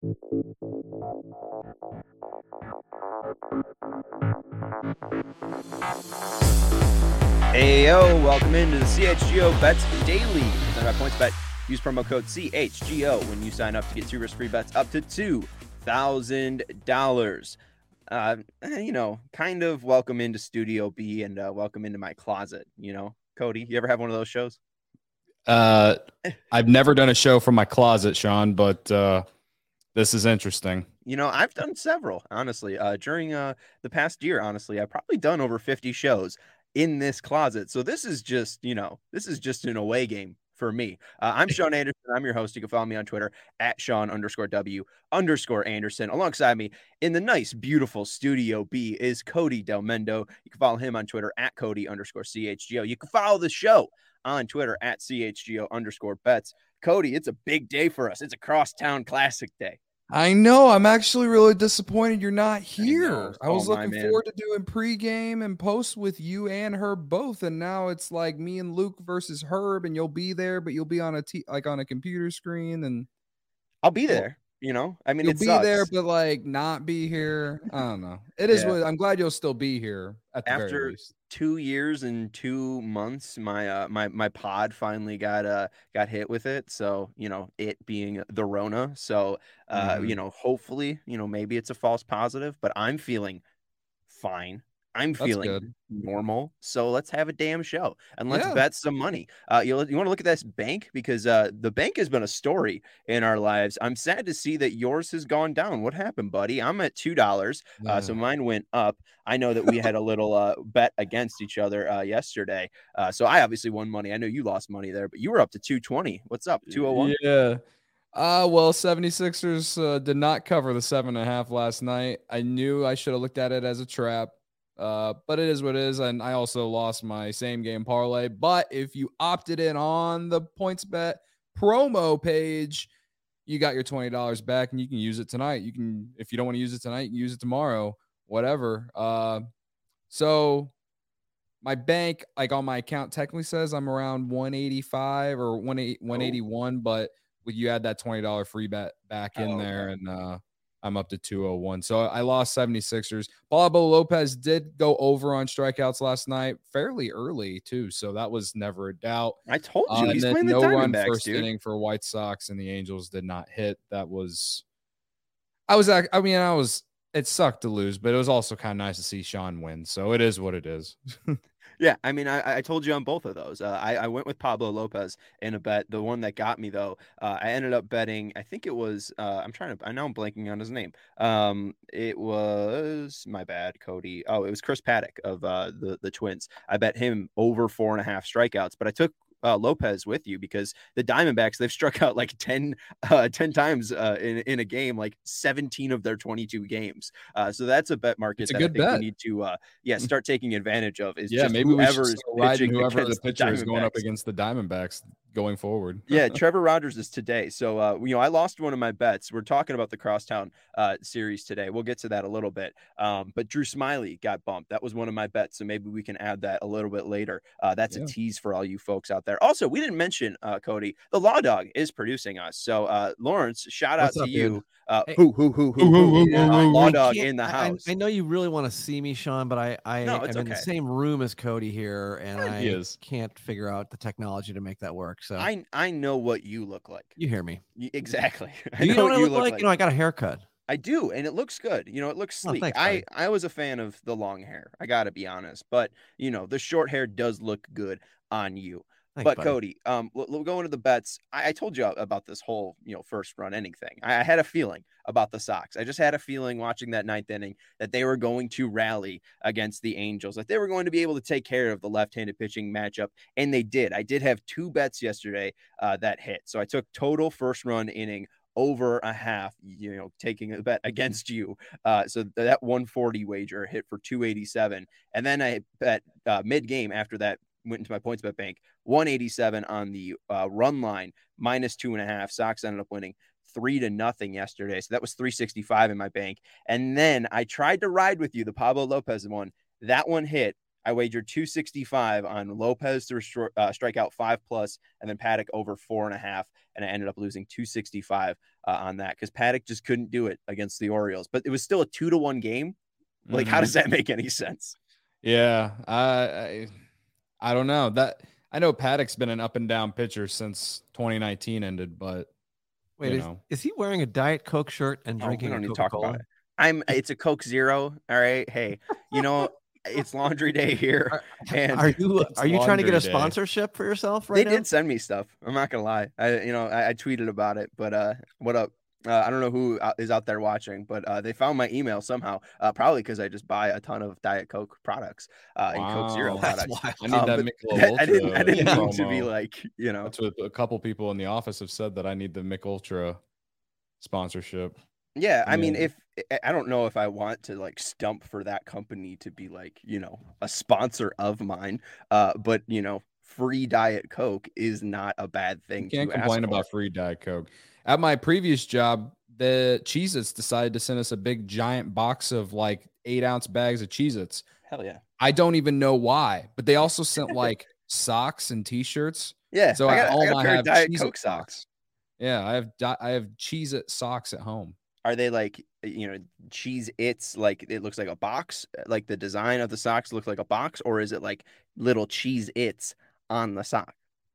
Hey, yo, welcome into the CHGO Bets Daily. Presented by PointsBet. Use promo code CHGO when you sign up to get 2 risk-free bets up to $2,000. Kind of welcome into Studio B and welcome into my closet, Cody, you ever have one of those shows? I've never done a show from my closet, Sean, but this is interesting. I've done several, honestly. During the past year, honestly, I've probably done over 50 shows in this closet. So this is just an away game for me. I'm Sean Anderson. I'm your host. You can follow me on Twitter at Sean_W_Anderson. Alongside me in the nice, beautiful Studio B is Cody Del Mendo. You can follow him on Twitter at Cody_CHGO. You can follow the show on Twitter at CHGO_bets. Cody, it's a big day for us. It's a crosstown classic day. I know. I'm actually really disappointed you're not here. I was Oh, looking forward to doing pregame and post with you and Herb both, and now it's like me and Luke versus Herb, and you'll be there, but you'll be on on a computer screen, and I'll be there. I mean, you'll it be sucks. there, but like not be here. I don't know. It is what I'm glad you'll still be here at the very least. 2 years and 2 months, my pod finally got hit with it. So, it being the Rona. So, hopefully, maybe it's a false positive, but I'm feeling fine. I'm feeling normal. So let's have a damn show and let's bet some money. You want to look at this bank because the bank has been a story in our lives. I'm sad to see that yours has gone down. What happened, buddy? I'm at $2. So mine went up. I know that we had a little bet against each other yesterday. So I obviously won money. I know you lost money there, but you were up to 220. What's up? 201? Yeah. Well, 76ers did not cover the 7.5 last night. I knew I should have looked at it as a trap. But it is what it is. And I also lost my same game parlay. But if you opted in on the PointsBet promo page, you got your $20 back and you can use it tonight. You can, if you don't want to use it tonight, you can use it tomorrow, whatever. So my bank, like on my account, technically says I'm around 185 or 181, but you add that $20 free bet back in there, and I'm up to 201. So I lost 76ers. Pablo Lopez did go over on strikeouts last night, fairly early too. So that was never a doubt. I told you he's playing the no run Diamondbacks, first dude. inning for White Sox, and the Angels did not hit. It sucked to lose, but it was also kind of nice to see Sean win. So it is what it is. Yeah, I mean, I told you on both of those. I went with Pablo Lopez in a bet. The one that got me, though, I ended up betting, I think it was, I know I'm blanking on his name. It was, my bad, Cody. Oh, it was Chris Paddock of the Twins. I bet him over 4.5 strikeouts, but I took Lopez with you because the Diamondbacks, they've struck out like 10 times in a game, like 17 of their 22 games. So that's a bet market that I think we need to start taking advantage of. Maybe whoever the pitcher is going up against the Diamondbacks going forward. Yeah, Trevor Rogers is today. So I lost one of my bets. We're talking about the Crosstown series today. We'll get to that a little bit. But Drew Smyly got bumped. That was one of my bets. So maybe we can add that a little bit later. That's a tease for all you folks out there. Also, we didn't mention, Cody, the Law Dog is producing us. So Lawrence, shout out to you. Law Dog in the house. I know you really want to see me, Sean, but I'm in the same room as Cody here, and I can't figure out the technology to make that work. So I know what you look like. You hear me. Exactly. You know what I look like? I got a haircut. I do, and it looks good. It looks sleek. Thanks, I was a fan of the long hair. I got to be honest, but the short hair does look good on you. Thanks, but buddy. Cody, we'll go into the bets. I told you about this whole, first run inning thing. I had a feeling about the Sox. I just had a feeling watching that 9th inning that they were going to rally against the Angels, that they were going to be able to take care of the left-handed pitching matchup, and they did. I did have 2 bets yesterday that hit. So I took total first run inning over a half, taking a bet against you. So that 140 wager hit for 287. And then I bet mid-game after that, went into my PointsBet bank, 187 on the run line, minus 2.5. Sox ended up winning 3-0 yesterday. So that was 365 in my bank. And then I tried to ride with you, the Pablo Lopez one. That one hit. I wagered 265 on Lopez to strike out 5+, and then Paddock over 4.5, and I ended up losing 265 on that because Paddock just couldn't do it against the Orioles. But it was still a 2-1 game. Like, how does that make any sense? Yeah, I don't know. That I know Paddock's been an up and down pitcher since 2019 ended, but wait, is he wearing a Diet Coke shirt and drinking a Coca-Cola? It's a Coke Zero. All right. Hey, it's laundry day here. Are you trying to get a sponsorship for yourself right now? They did send me stuff. I'm not gonna lie. I tweeted about it, but what up? I don't know who is out there watching, but they found my email somehow, probably because I just buy a ton of Diet Coke products and Coke Zero products. I need that Michelob Ultra. I didn't mean to be like, That's what a couple people in the office have said, that I need the Mich Ultra sponsorship. Yeah, I mean, if I don't know if I want to like stump for that company to be like, a sponsor of mine, but free Diet Coke is not a bad thing. You can't complain about free Diet Coke. At my previous job, the Cheez-Its decided to send us a big giant box of like 8-ounce bags of Cheez-Its. Hell yeah. I don't even know why, but they also sent like socks and t-shirts. Yeah. So I have Diet Coke socks. Yeah, I have Cheez-It socks at home. Are they like, Cheez-Its, like it looks like a box, like the design of the socks looks like a box, or is it like little Cheez-Its on the sock?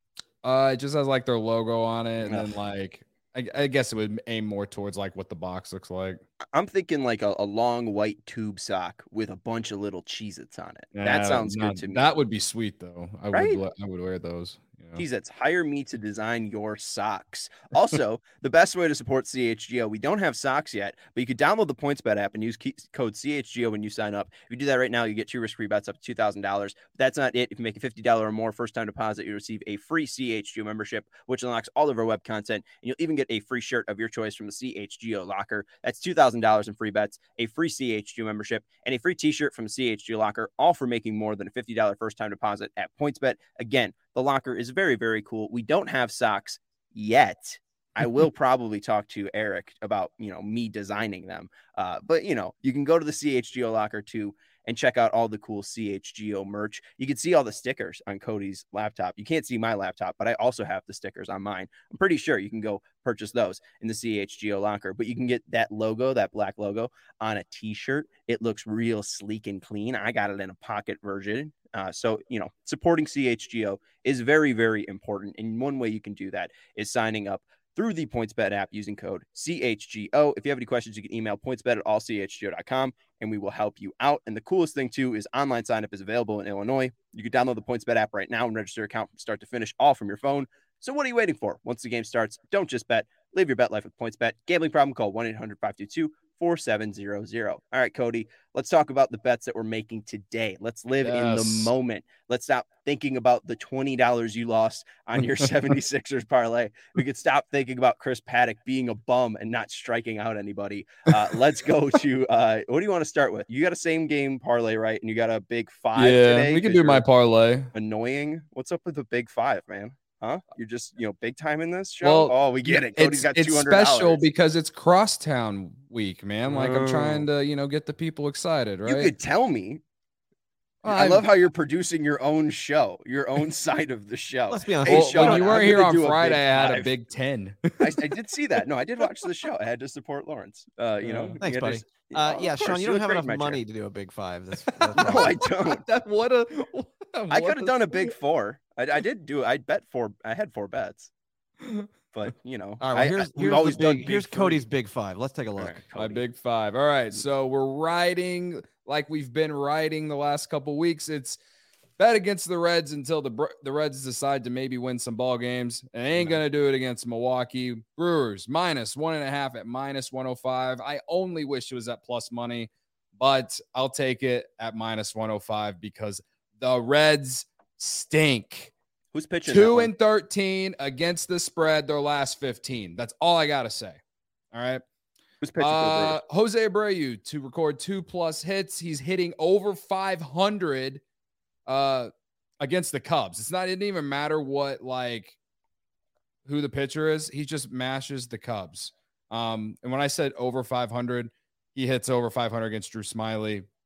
It just has like their logo on it, and then like I guess it would aim more towards like what the box looks like. I'm thinking like a long white tube sock with a bunch of little Cheez-Its on it. That sounds good to me. That would be sweet though. I would wear those. Cheez-Its, hire me to design your socks. Also, the best way to support CHGO, we don't have socks yet, but you could download the PointsBet app and use code CHGO when you sign up. If you do that right now, you get 2 risk-free bets up to $2,000. But that's not it. If you make a $50 or more first-time deposit, you receive a free CHGO membership, which unlocks all of our web content, and you'll even get a free shirt of your choice from the CHGO locker. That's $2,000 in free bets, a free CHGO membership, and a free t-shirt from the CHGO locker, all for making more than a $50 first-time deposit at PointsBet. Again, the locker is very, very cool. We don't have socks yet. I will probably talk to Eric about, me designing them. But, you can go to the CHGO locker too and check out all the cool CHGO merch. You can see all the stickers on Cody's laptop. You can't see my laptop, but I also have the stickers on mine. I'm pretty sure you can go purchase those in the CHGO locker, but you can get that logo, that black logo, on a t-shirt. It looks real sleek and clean. I got it in a pocket version. So, supporting CHGO is very, very important. And one way you can do that is signing up through the PointsBet app using code CHGO. If you have any questions, you can email pointsbet@allchgo.com and we will help you out. And the coolest thing, too, is online sign up is available in Illinois. You can download the PointsBet app right now and register your account from start to finish, all from your phone. So what are you waiting for? Once the game starts, don't just bet. Live your bet life with PointsBet. Gambling problem? Call 1-800-522-4700. All right, Cody, let's talk about the bets that we're making today. Let's live in the moment. Let's stop thinking about the $20 you lost on your 76ers parlay. We could stop thinking about Chris Paddock being a bum and not striking out anybody. Let's go to what do you want to start with? You got a same game parlay, right? And you got a big 5 today. We can do my parlay. Annoying. What's up with the big 5, man? Huh? You're just, big time in this show? Well, we get it. Cody's got $200. It's special because it's Crosstown week, man. Like, I'm trying to, get the people excited, right? You could tell me. I love how you're producing your own show, your own side of the show. Let's be honest. When you weren't here on Friday, I had a big 10. I did see that. No, I did watch the show. I had to support Lawrence. Thanks, buddy. Sean, you don't have enough money to do a big 5. That's no, I don't. I could have done a big 4. I did do it. I had 4 bets. But all right. Well, here's Cody's big 5. Let's take a look. My big 5. All right. So we're riding like we've been riding the last couple weeks. It's bet against the Reds until the Reds decide to maybe win some ball games. And ain't gonna do it against Milwaukee. Brewers -1.5 at -105. I only wish it was at plus money, but I'll take it at -105 because the Reds stink. Who's pitching? 2-13 against the spread their last 15. That's all I gotta say. All right. Who's pitching for Jose Abreu to record 2+ hits. He's hitting over 500 against the Cubs. It didn't even matter what who the pitcher is. He just mashes the Cubs. And when I said over 500, he hits over 500 against Drew Smyly.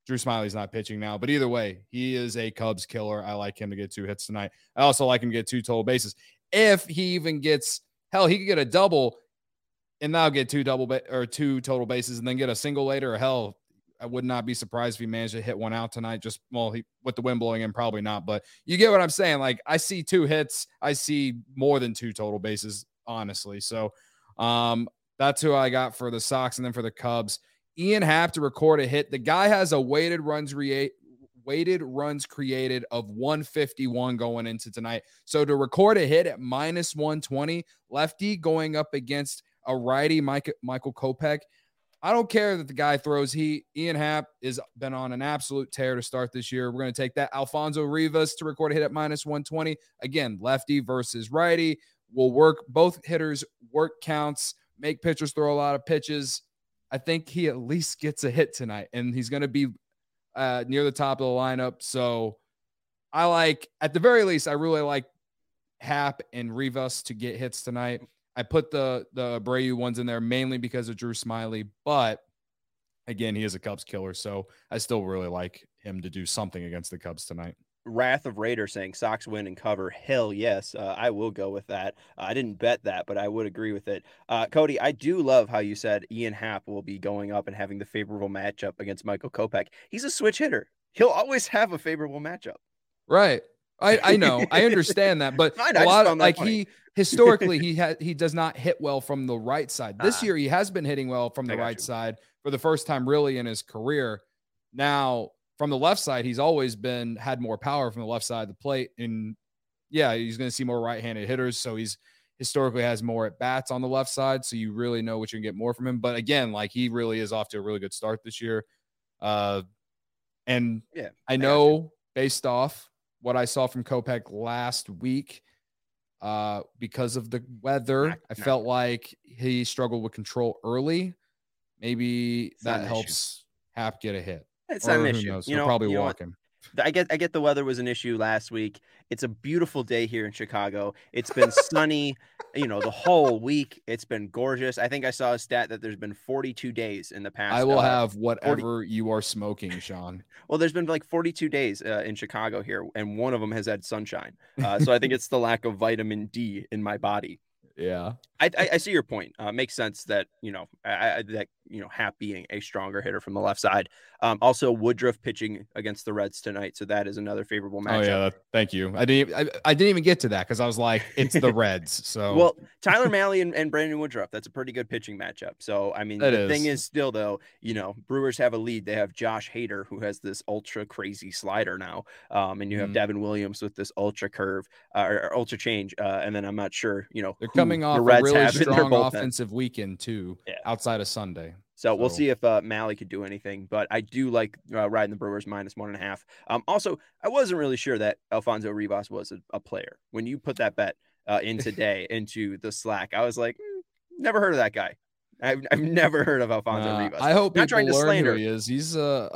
Drew Smyly's not pitching now, but either way, he is a Cubs killer. I like him to get 2 hits tonight. I also like him to get 2 total bases. If he even gets, hell, he could get a double and now get 2 total bases and then get a single later. Or hell, I would not be surprised if he managed to hit one out tonight. Just, well, with the wind blowing in, probably not. But you get what I'm saying. Like, I see 2 hits. I see more than 2 total bases, honestly. So that's who I got for the Sox. And then for the Cubs, Ian Happ to record a hit. The guy has a weighted runs created of 151 going into tonight. So to record a hit at minus 120, lefty going up against a righty, Michael Kopech. I don't care that the guy throws heat. Ian Happ has been on an absolute tear to start this year. We're going to take that. Alfonso Rivas to record a hit at minus 120. Again, lefty versus righty. Will work. Both hitters work counts, make pitchers throw a lot of pitches. I think he at least gets a hit tonight, and he's going to be near the top of the lineup. So I like, at the very least, I really like Happ and Rivas to get hits tonight. I put the Abreu ones in there mainly because of Drew Smyly, but again, he is a Cubs killer, so I still really like him to do something against the Cubs tonight. Wrath of Raider saying Sox win and cover. Hell yes. I will go with that. I didn't bet that, but I would agree with it. Cody, I do love how you said Ian Happ will be going up and having the favorable matchup against Michael Kopech. He's a switch hitter. He'll always have a favorable matchup. Right. I know. I understand that, but a lot of like funny. he does not hit well from the right side. This year he has been hitting well from the right side for the first time really in his career. Now, from the left side, he's always had more power from the left side of the plate. And yeah, he's going to see more right-handed hitters. So he's historically has more at bats on the left side. So you really know what you can get more from him. But again, like he really is off to a really good start this year. And yeah, I know based off what I saw from Kopech last week, because of the weather, I felt like he struggled with control early. Maybe that helps Happ get a hit. It's not an issue. You know, probably walking. I get the weather was an issue last week. It's a beautiful day here in Chicago. It's been sunny, the whole week. It's been gorgeous. I think I saw a stat that there's been 42 days in the past. I will have whatever you are smoking, Sean. Well, there's been like 42 days in Chicago here, and one of them has had sunshine. So I think it's the lack of vitamin D in my body. Yeah, I see your point. Makes sense that Happ being a stronger hitter from the left side. Also Woodruff pitching against the Reds tonight, so that is another favorable matchup. Oh yeah, thank you. I didn't even get to that because I was like, it's the Reds. So well, Tyler Mahle and Brandon Woodruff, that's a pretty good pitching matchup. So I mean, the thing is still though, Brewers have a lead. They have Josh Hader who has this ultra crazy slider now, and you have Devin Williams with this ultra curve or ultra change, and then I'm not sure. They're coming off a really strong offensive weekend too, outside of Sunday. So we'll see if Mahle could do anything, but I do like riding the Brewers minus 1.5. Also, I wasn't really sure that Alfonso Rivas was a player. When you put that bet in today into the Slack, I was like, never heard of that guy. I've never heard of Alfonso Rivas. I hope people learn who he is. He's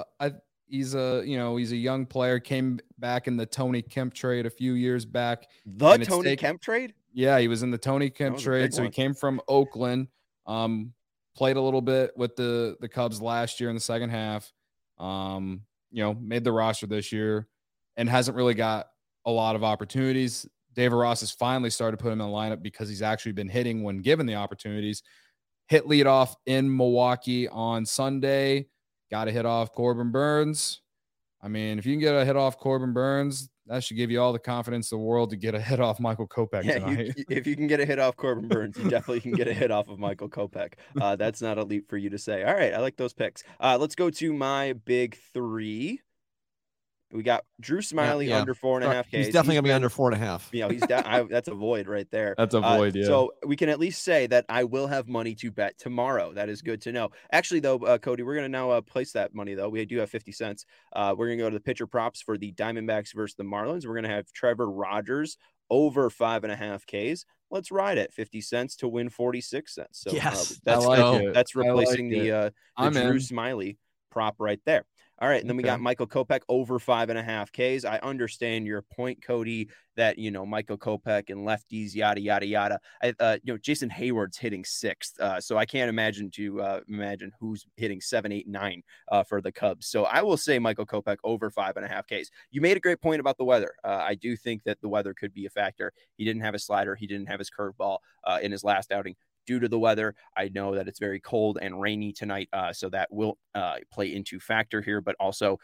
a young player. Came back in the Tony Kemp trade a few years back. The Tony Kemp trade? Yeah, he was in the Tony Kemp trade. So he came from Oakland. Played a little bit with the Cubs last year in the second half, made the roster this year and hasn't really got a lot of opportunities. David Ross has finally started to put him in the lineup because he's actually been hitting when given the opportunities. Hit leadoff in Milwaukee on Sunday. Got a hit off Corbin Burns. I mean, if you can get a hit off Corbin Burns, that should give you all the confidence in the world to get a hit off Michael Kopech tonight. If you can get a hit off Corbin Burns, you definitely can get a hit off of Michael Kopech. That's not a leap for you to say. All right, I like those picks. Let's go to my big three. We got Drew Smyly under 4.5 Ks. He's definitely gonna be under 4.5. He's that's a void right there. That's a void. Yeah. So we can at least say that I will have money to bet tomorrow. That is good to know. Actually, though, Cody, we're gonna now place that money. Though we do have 50 cents. We're gonna go to the pitcher props for the Diamondbacks versus the Marlins. We're gonna have Trevor Rogers over 5.5 Ks. Let's ride it. 50 cents to win 46 cents. So yes, that's replacing the Drew Smyly prop right there. All right. And then we got Michael Kopech over 5.5 Ks. I understand your point, Cody, that, Michael Kopech and lefties, yada, yada, yada. Jason Hayward's hitting 6th. So I can't imagine who's hitting 7, 8, 9 for the Cubs. So I will say Michael Kopech over 5.5 Ks. You made a great point about the weather. I do think that the weather could be a factor. He didn't have a slider. He didn't have his curveball in his last outing. Due to the weather, I know that it's very cold and rainy tonight, so that will play into factor here. But also,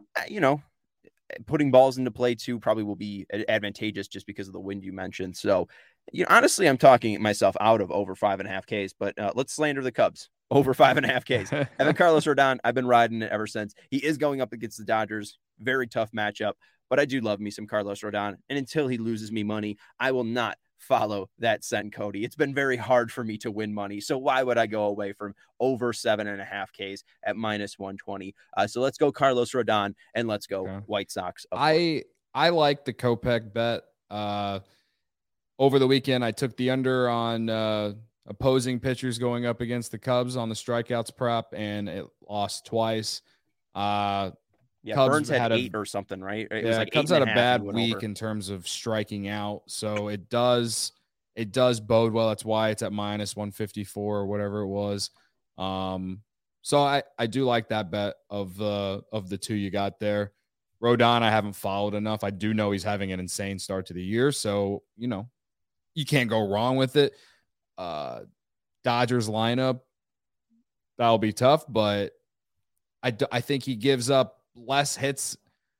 putting balls into play too probably will be advantageous just because of the wind you mentioned. So, honestly, I'm talking myself out of over 5.5 Ks. But let's slander the Cubs over 5.5 Ks. And then Carlos Rodon, I've been riding it ever since. He is going up against the Dodgers, very tough matchup. But I do love me some Carlos Rodon, and until he loses me money, I will not follow that scent, Cody. It's been very hard for me to win money. So why would I go away from over 7.5 Ks at -120? So let's go Carlos Rodon and let's go White Sox. I like the Kopech bet. Over the weekend, I took the under on opposing pitchers going up against the Cubs on the strikeouts prop, and it lost twice. Cubs Burns had 8 or something, right? It was like Cubs had a bad week in terms of striking out, so it does bode well. That's why it's at -154 or whatever it was. So I do like that bet of the two you got there. Rodon, I haven't followed enough. I do know he's having an insane start to the year, so you can't go wrong with it. Dodgers lineup, that'll be tough, but I think he gives up less hits,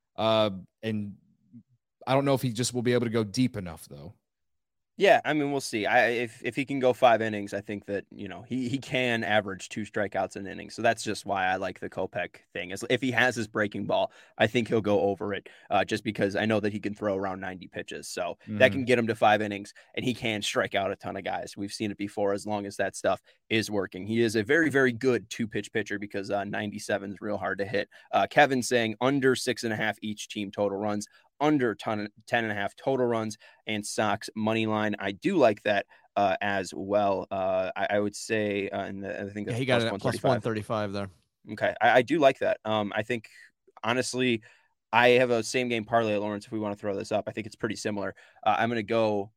and I don't know if he just will be able to go deep enough, though. Yeah, I mean, we'll see. If he can go 5 innings, I think that, he can average 2 strikeouts an inning. So that's just why I like the Kopech thing. If he has his breaking ball, I think he'll go over it, just because I know that he can throw around 90 pitches. So that can get him to 5 innings, and he can strike out a ton of guys. We've seen it before, as long as that stuff is working. He is a very, very good 2-pitch pitcher, because 97 is real hard to hit. Kevin saying under 6.5 each team total runs, under 10.5 total runs, and Sox money line. I do like that as well. I would say, and I think that's he got it at plus 135 there. Okay, I do like that. I think, honestly, I have a same game parlay, Lawrence. If we want to throw this up, I think it's pretty similar. I'm going to go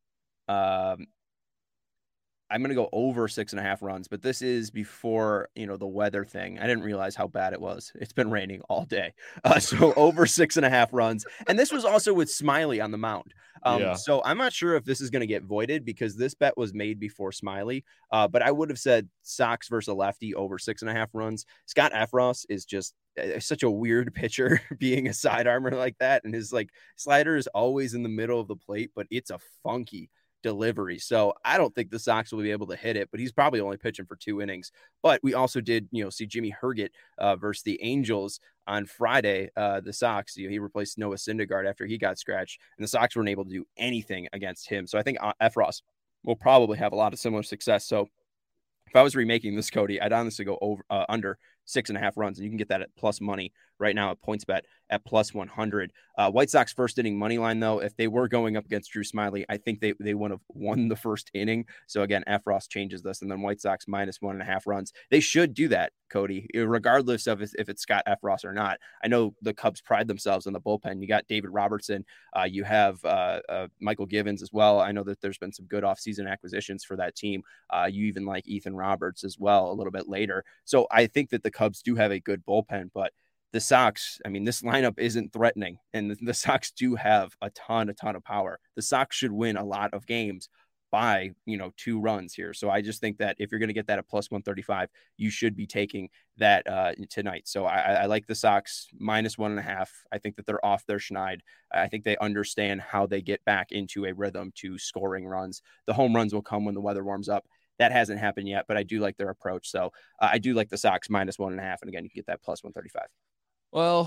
over 6.5 runs, but this is before, the weather thing. I didn't realize how bad it was. It's been raining all day. So over 6.5 runs. And this was also with Smiley on the mound. So I'm not sure if this is going to get voided, because this bet was made before Smiley. But I would have said Sox versus a lefty over 6.5 runs. Scott Effross is just such a weird pitcher, being a sidearmer like that. And his slider is always in the middle of the plate, but it's a funky delivery. So I don't think the Sox will be able to hit it, but he's probably only pitching for 2 innings. But we also did, see Jimmy Herget versus the Angels on Friday. The Sox, he replaced Noah Syndergaard after he got scratched, and the Sox weren't able to do anything against him. So I think Effross will probably have a lot of similar success. So if I was remaking this, Cody, I'd honestly go over under 6.5 runs, and you can get that at plus money right now at PointsBet at plus 100. White Sox first inning money line, though, if they were going up against Drew Smiley, I think they would have won the first inning. So again, Effross changes this, and then White Sox -1.5 runs. They should do that, Cody, regardless of if it's Scott Effross or not. I know the Cubs pride themselves on the bullpen. You got David Robertson. You have Michael Givens as well. I know that there's been some good offseason acquisitions for that team. You even like Ethan Roberts as well a little bit later. So I think that the Cubs do have a good bullpen, but the Sox, I mean, this lineup isn't threatening, and the Sox do have a ton of power. The Sox should win a lot of games by, 2 runs here. So I just think that if you're going to get that at plus 135, you should be taking that tonight. So I like the Sox -1.5. I think that they're off their schneid. I think they understand how they get back into a rhythm to scoring runs. The home runs will come when the weather warms up. That hasn't happened yet, but I do like their approach. So I do like the Sox -1.5. And again, you can get that plus 135. Well,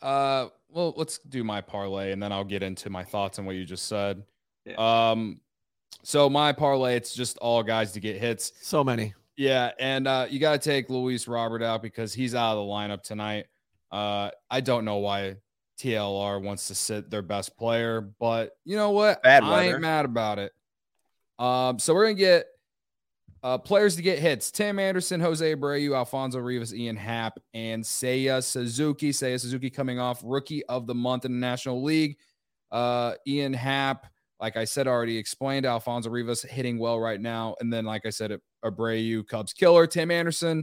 let's do my parlay, and then I'll get into my thoughts on what you just said. Yeah. So my parlay, it's just all guys to get hits. So many. Yeah, and you got to take Luis Robert out because he's out of the lineup tonight. I don't know why TLR wants to sit their best player, but you know what? I ain't mad about it. So we're going to get Players to get hits: Tim Anderson, Jose Abreu, Alfonso Rivas, Ian Happ, and Seiya Suzuki. Seiya Suzuki coming off Rookie of the Month in the National League. Ian Happ, like I said, already explained. Alfonso Rivas hitting well right now. And then, like I said, Abreu, Cubs killer. Tim Anderson,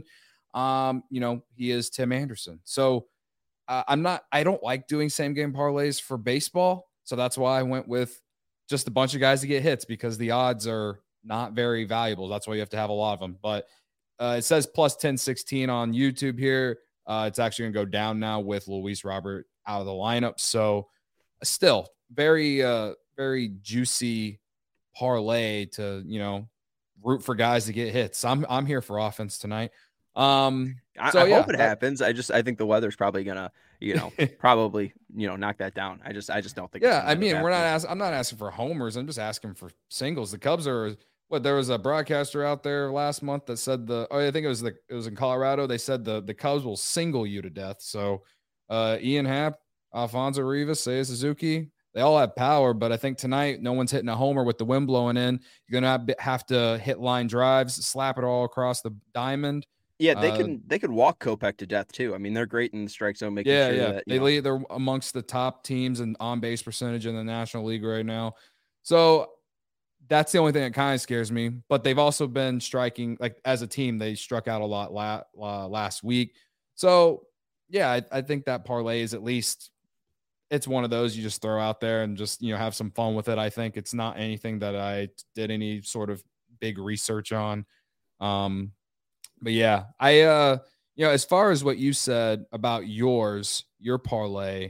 he is Tim Anderson. So I don't like doing same game parlays for baseball. So that's why I went with just a bunch of guys to get hits, because the odds are not very valuable. That's why you have to have a lot of them. But it says plus 1016 on YouTube here. It's actually going to go down now with Luis Robert out of the lineup. So still very, very juicy parlay to, root for guys to get hits. I'm here for offense tonight. I hope it happens. I think the weather's probably gonna, knock that down. I just don't think. Yeah, I mean, I'm not asking for homers. I'm just asking for singles. The Cubs are there was a broadcaster out there last month that said I think it was in Colorado. They said the Cubs will single you to death. So Ian Happ, Alfonso Rivas, Seiya Suzuki, they all have power, but I think tonight no one's hitting a homer with the wind blowing in. You're gonna have to hit line drives, slap it all across the diamond. Yeah, they could walk Kopech to death too. I mean, they're great in the strike zone, making sure that they're amongst the top teams in on base percentage in the National League right now. So that's the only thing that kind of scares me. But they've also been striking, like as a team, they struck out a lot last week. So yeah, I think that parlay is at least, it's one of those you just throw out there and just have some fun with it. I think it's not anything that I did any sort of big research on. But yeah, I as far as what you said about your parlay,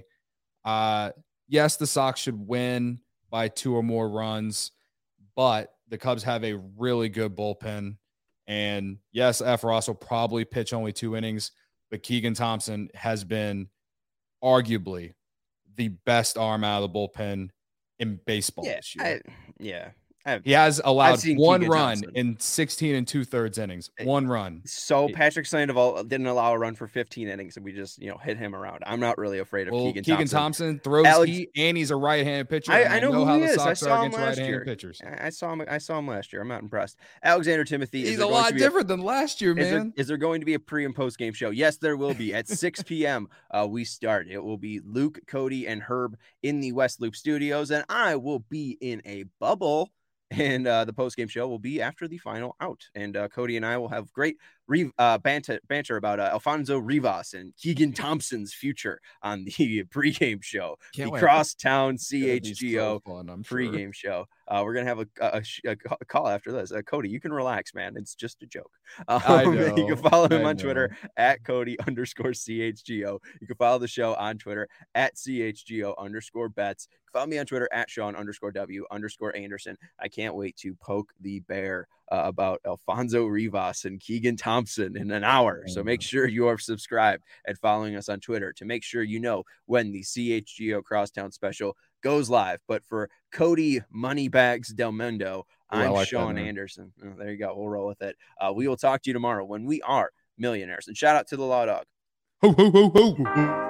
yes, the Sox should win by 2 or more runs, but the Cubs have a really good bullpen. And yes, Ross will probably pitch only 2 innings, but Keegan Thompson has been arguably the best arm out of the bullpen in baseball this year. He has allowed 1 run in 16 2/3 innings. 1 run. So Patrick Sandoval didn't allow a run for 15 innings, and we just hit him around. I'm not really afraid of Keegan Thompson. Keegan Thompson throws heat, and he's a right-handed pitcher. I know how he the is. Sox are against right-handed pitchers. I saw him last year. I'm not impressed. Alexander Timothy. He's a lot different than last year, man. Is there going to be a pre and post game show? Yes, there will be at 6 p.m. We start. It will be Luke, Cody, and Herb in the West Loop Studios, and I will be in a bubble. And the post-game show will be after the final out. And Cody and I will have great banter about Alfonso Rivas and Keegan Thompson's future on the pregame show. The Crosstown CHGO pregame show. We're going to have a call after this. Cody, you can relax, man. It's just a joke. You can follow him on Twitter at Cody_CHGO. You can follow the show on Twitter at CHGO_bets. Follow me on Twitter at Sean_W_Anderson. I can't wait to poke the bear about Alfonso Rivas and Keegan Thompson in an hour. So make sure you are subscribed and following us on Twitter to make sure you know when the CHGO Crosstown special goes live. But for Cody Moneybags Del Mundo, I'm Sean Anderson. Oh, there you go. We'll roll with it. We will talk to you tomorrow when we are millionaires. And shout out to the Law Dog. Ho, ho, ho, ho.